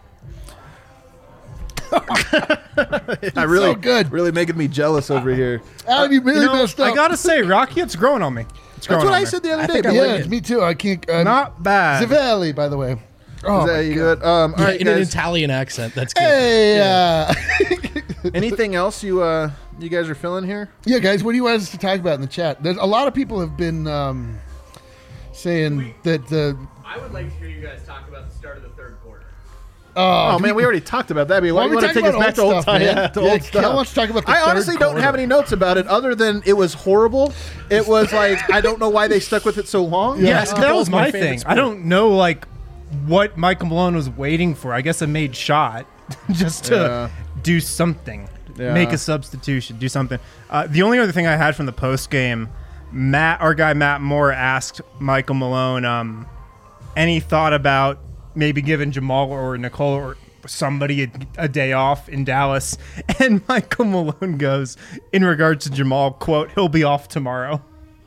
I really so good. really making me jealous over here. Adam, you really messed up. I gotta say, Rocky, it's growing on me. It's growing That's what on I me. said the other day. think I man. like Yeah, it. me too. I can't. Not bad. Zavelli, by the way. Oh, Is that my you God. good? All Yeah, right, in an guys. Italian accent. That's good. Hey, Anything else you guys are feeling here? yeah, guys, what do you want us to talk about in the chat? There's a lot of people have been saying that the. I would like to hear you guys talk about the start of the third quarter. Oh man, we already talked about that. I mean, why Why do you are we want to talking take us back to about old old time? stuff, man? Yeah, to Yeah, old Kel stuff. wants to talk about the I third honestly don't have quarter. any notes about it other than it was horrible. It was like I don't know why they stuck with it so long. Yeah, Basketball that was is my my favorite thing. sport. I don't know, like, what Michael Malone was waiting for. I guess a made shot just to Yeah. do something, Yeah. make a substitution, do something. The only other thing I had from the post game, our guy Matt Moore asked Michael Malone, any thought about maybe giving Jamal or Nicole or somebody a day off in Dallas? And Michael Malone goes, in regards to Jamal, quote, "He'll be off tomorrow."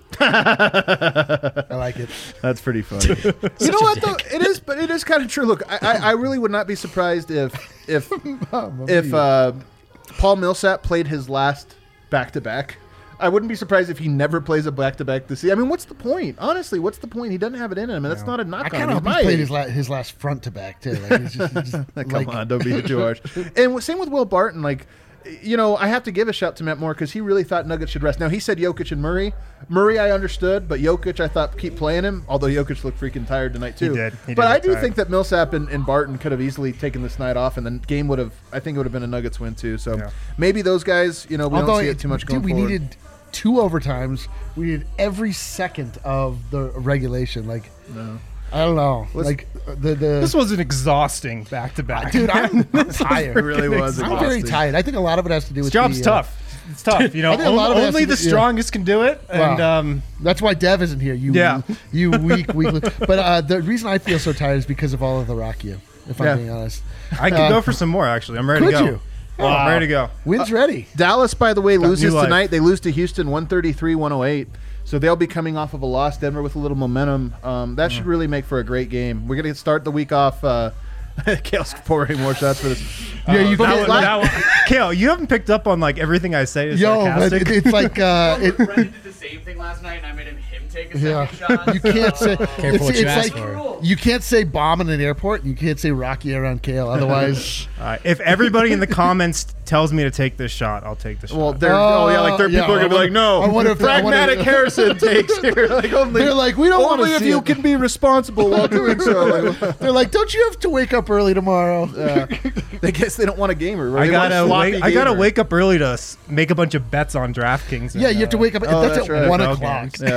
I like it. That's pretty funny. You know what though? It is, but it is kind of true. Look, I really would not be surprised if Paul Millsap played his last back-to-back. I wouldn't be surprised if he never plays a back-to-back this season. I mean, what's the point? Honestly, what's the point? He doesn't have it in him, and that's not a I knock kind on of him. hope he played his last front to back too. Like, he's just Come like, on, don't be too harsh. And same with Will Barton. Like, I have to give a shout to Matt Moore because he really thought Nuggets should rest. Now, he said Jokic and Murray. Murray, I understood, but Jokic, I thought keep playing him, although Jokic looked freaking tired tonight, too. He did. He But did I look do tired. think that Millsap and Barton could have easily taken this night off, and the game would have, I think it would have been a Nuggets win, too. So Yeah. maybe those guys, we don't see it too much going we forward. needed 2 overtimes. We needed every second of the regulation. Like, I don't know. Like the This was an exhausting back-to-back. dude, I'm tired. It really was I'm very exhausting. tired. I think a lot of it has to do with This job's the, tough. It's tough. I think a lot of it has Only to the do- yeah. strongest can do it. Wow. And That's why Dev isn't here. Yeah. you weak. But the reason I feel so tired is because of all of the Rakia. If Yeah. I'm being honest, I could go for some more, actually. I'm ready to could go. you? I'm ready to go. Wind's ready. Dallas, by the way, loses new life. tonight. They lose to Houston 133-108. So they'll be coming off of a loss. Denver with a little momentum. That should really make for a great game. We're going to start the week off. Kale's pouring more shots for this. Yeah, you Okay, can't. Kale, you haven't picked up on like everything I say is Yo, but sarcastic. it's like Brendan did the same thing last night, and I made him take a Yeah. second shot. You can't say. Careful what you ask like for. you can't say bomb in an airport. And you can't say Rocky around Kale. Otherwise, If everybody in the comments tells me to take this shot, I'll take the shot. Well, people are going to be like, no. I wonder if Pragmatic Harrison takes here. Like, only, they're like, we don't want only to if see you it. can be responsible while doing so. Like, They're like, don't you have to wake up early tomorrow? they guess they don't want a gamer. Right? I They want a sloppy gotta gamer. wake up early to make a bunch of bets on DraftKings. Yeah, you have to wake up. Oh, that's that's at right. 1 NFL o'clock. games. Yeah.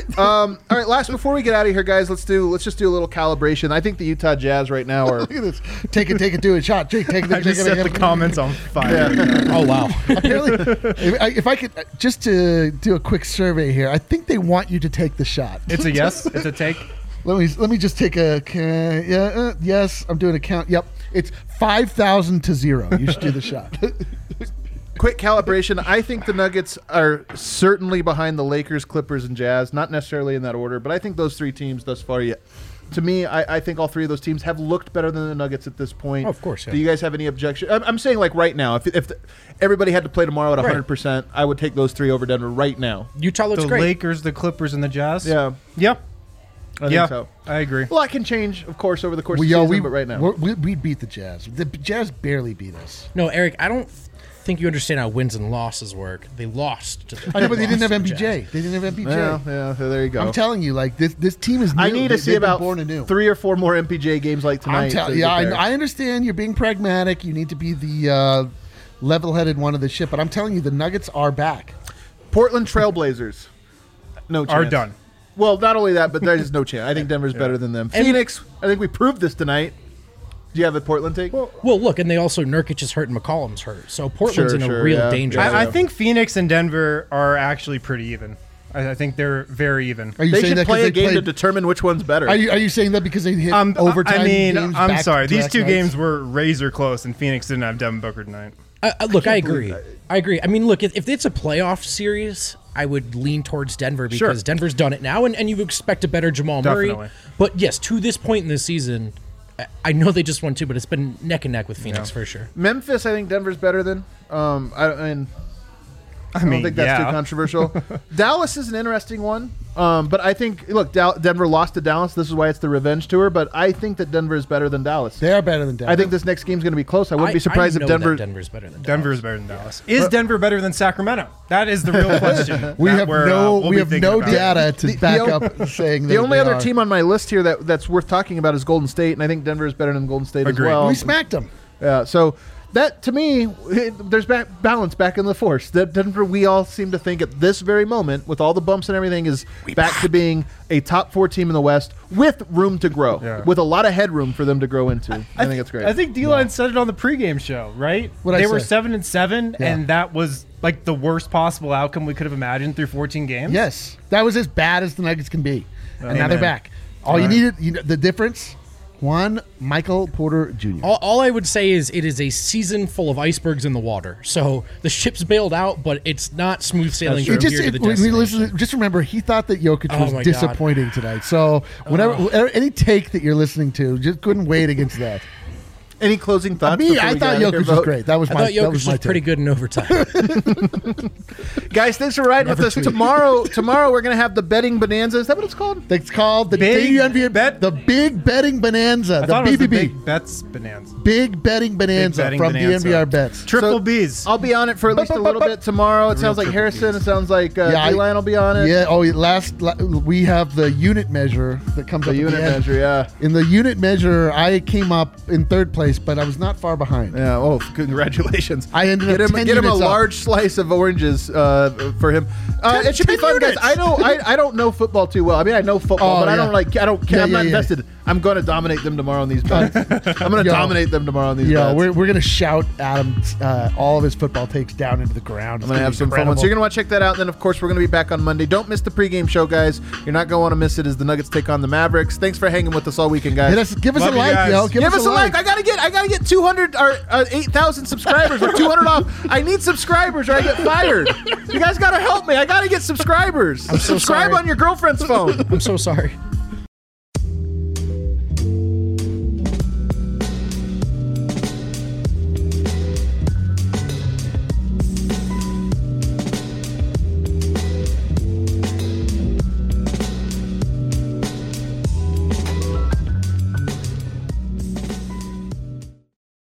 All right, before we get out of here, guys, let's just do a little calibration. I think the Utah Jazz right now are. Look at this. Take it, do it. Shot. Take it. I just set the comments on fire. Yeah. Oh wow. Apparently, if I could just to do a quick survey here, I think they want you to take the shot. It's a yes. It's a take. Let me just take a yes. I'm doing a count. Yep, it's 5,000 to 0. You should do the shot. Quick calibration. I think the Nuggets are certainly behind the Lakers, Clippers, and Jazz. Not necessarily in that order, but I think those three teams thus far, to me, I think all three of those teams have looked better than the Nuggets at this point. Oh, of course, yeah. Do you guys have any objection? I'm saying like right now, if everybody had to play tomorrow at 100%, I would take those three over Denver right now. Utah looks The great. Lakers, the Clippers, and the Jazz. Yeah. Yep. I think so. I agree. A lot can change, of course, over the course of the season, but right now. We beat the Jazz. The Jazz barely beat us. No, Eric, I don't think you understand how wins and losses work. They lost. I know, but they didn't have lost to MPJ. Jazz. They didn't have MPJ. Yeah, there you go. I'm telling you, like this team is new. I need to see They've been about born anew. 3 or 4 more MPJ games like tonight. I understand you're being pragmatic. You need to be the level-headed one of the ship. But I'm telling you, the Nuggets are back. Portland Trailblazers, no chance. Are done. Well, not only that, but there's no chance. I think Denver's better than them. Phoenix, I think we proved this tonight. Do you have a Portland take? Well, look, and they also Nurkic is hurt and McCollum's hurt, so Portland's in a real danger. I think Phoenix and Denver are actually pretty even. I think they're very even. Are you they saying should that play a game played, to determine which one's better. Are you saying that because they hit overtime? I mean, games I'm sorry. These back-to-back two nights? games were razor close, and Phoenix didn't have Devin Booker tonight. Look, I agree. I mean, look, if it's a playoff series, I would lean towards Denver because Denver's done it now, and you expect a better Jamal Murray. But yes, to this point in the season, I know they just won 2, but it's been neck and neck with Phoenix for sure. Memphis, I think Denver's better than. I don't think that's too controversial. Dallas is an interesting one. But I think, look, Denver lost to Dallas. This is why it's the revenge tour. But I think that Denver is better than Dallas. They are better than Dallas. I think this next game's going to be close. I wouldn't be surprised if Denver's better than Dallas. Denver is better than Dallas. Is Denver better than Sacramento? That is the real question. we have no data to back up saying that. The only other team on my list here that's worth talking about is Golden State, and I think Denver is better than Golden State as well. We smacked them. Yeah, so that, to me, there's balance back in the force. Denver, we all seem to think at this very moment, with all the bumps and everything, is back to being a top 4 team in the West with room to grow, with a lot of headroom for them to grow into. I think it's great. I think D-Line said it on the pregame show, right? They were 7-7, and that was like the worst possible outcome we could have imagined through 14 games. Yes, that was as bad as the Nuggets can be, and now they're back. All you needed, the difference. One, Michael Porter Jr. All I would say is it is a season full of icebergs in the water. So the ship's bailed out, but it's not smooth sailing from here to the destination. Just remember, he thought that Jokic was disappointing tonight. So whenever any take that you're listening to, just couldn't wait against that. Any closing thoughts? I thought Jokic was great. I thought Jokic was pretty good in overtime. Guys, thanks for riding with us. Tomorrow we're going to have the betting bonanza. Is that what it's called? It's called the Big Bet. The Big Betting Bonanza. I thought it was the Big Bets Bonanza. Big Betting Bonanza from DNVR Bets. Triple B's. I'll be on it for at least a little bit tomorrow. It sounds like Harrison. It sounds like D-Line will be on it. Yeah. Oh, we have the unit measure that comes up. The unit measure, yeah. In the unit measure, I came up in 3rd place, but I was not far behind. Yeah. Oh, congratulations! I ended up get him a large slice of oranges for him. It should be fun, guys. I don't know football too well. I mean, I know football, but I don't care. I'm not invested. I'm going to dominate them tomorrow on these bets. I'm going to dominate them tomorrow on these bets. We're going to shout Adam all of his football takes down into the ground. I'm going to have some fun ones. So you're going to want to check that out. And then, of course, we're going to be back on Monday. Don't miss the pregame show, guys. You're not going to want to miss it as the Nuggets take on the Mavericks. Thanks for hanging with us all weekend, guys. Give us a like, yo. Give us a like. I gotta get 200 or 8,000 subscribers or 200 off. I need subscribers or I get fired. You guys gotta help me. I gotta get subscribers. I'm so Subscribe sorry. on your girlfriend's phone. I'm so sorry.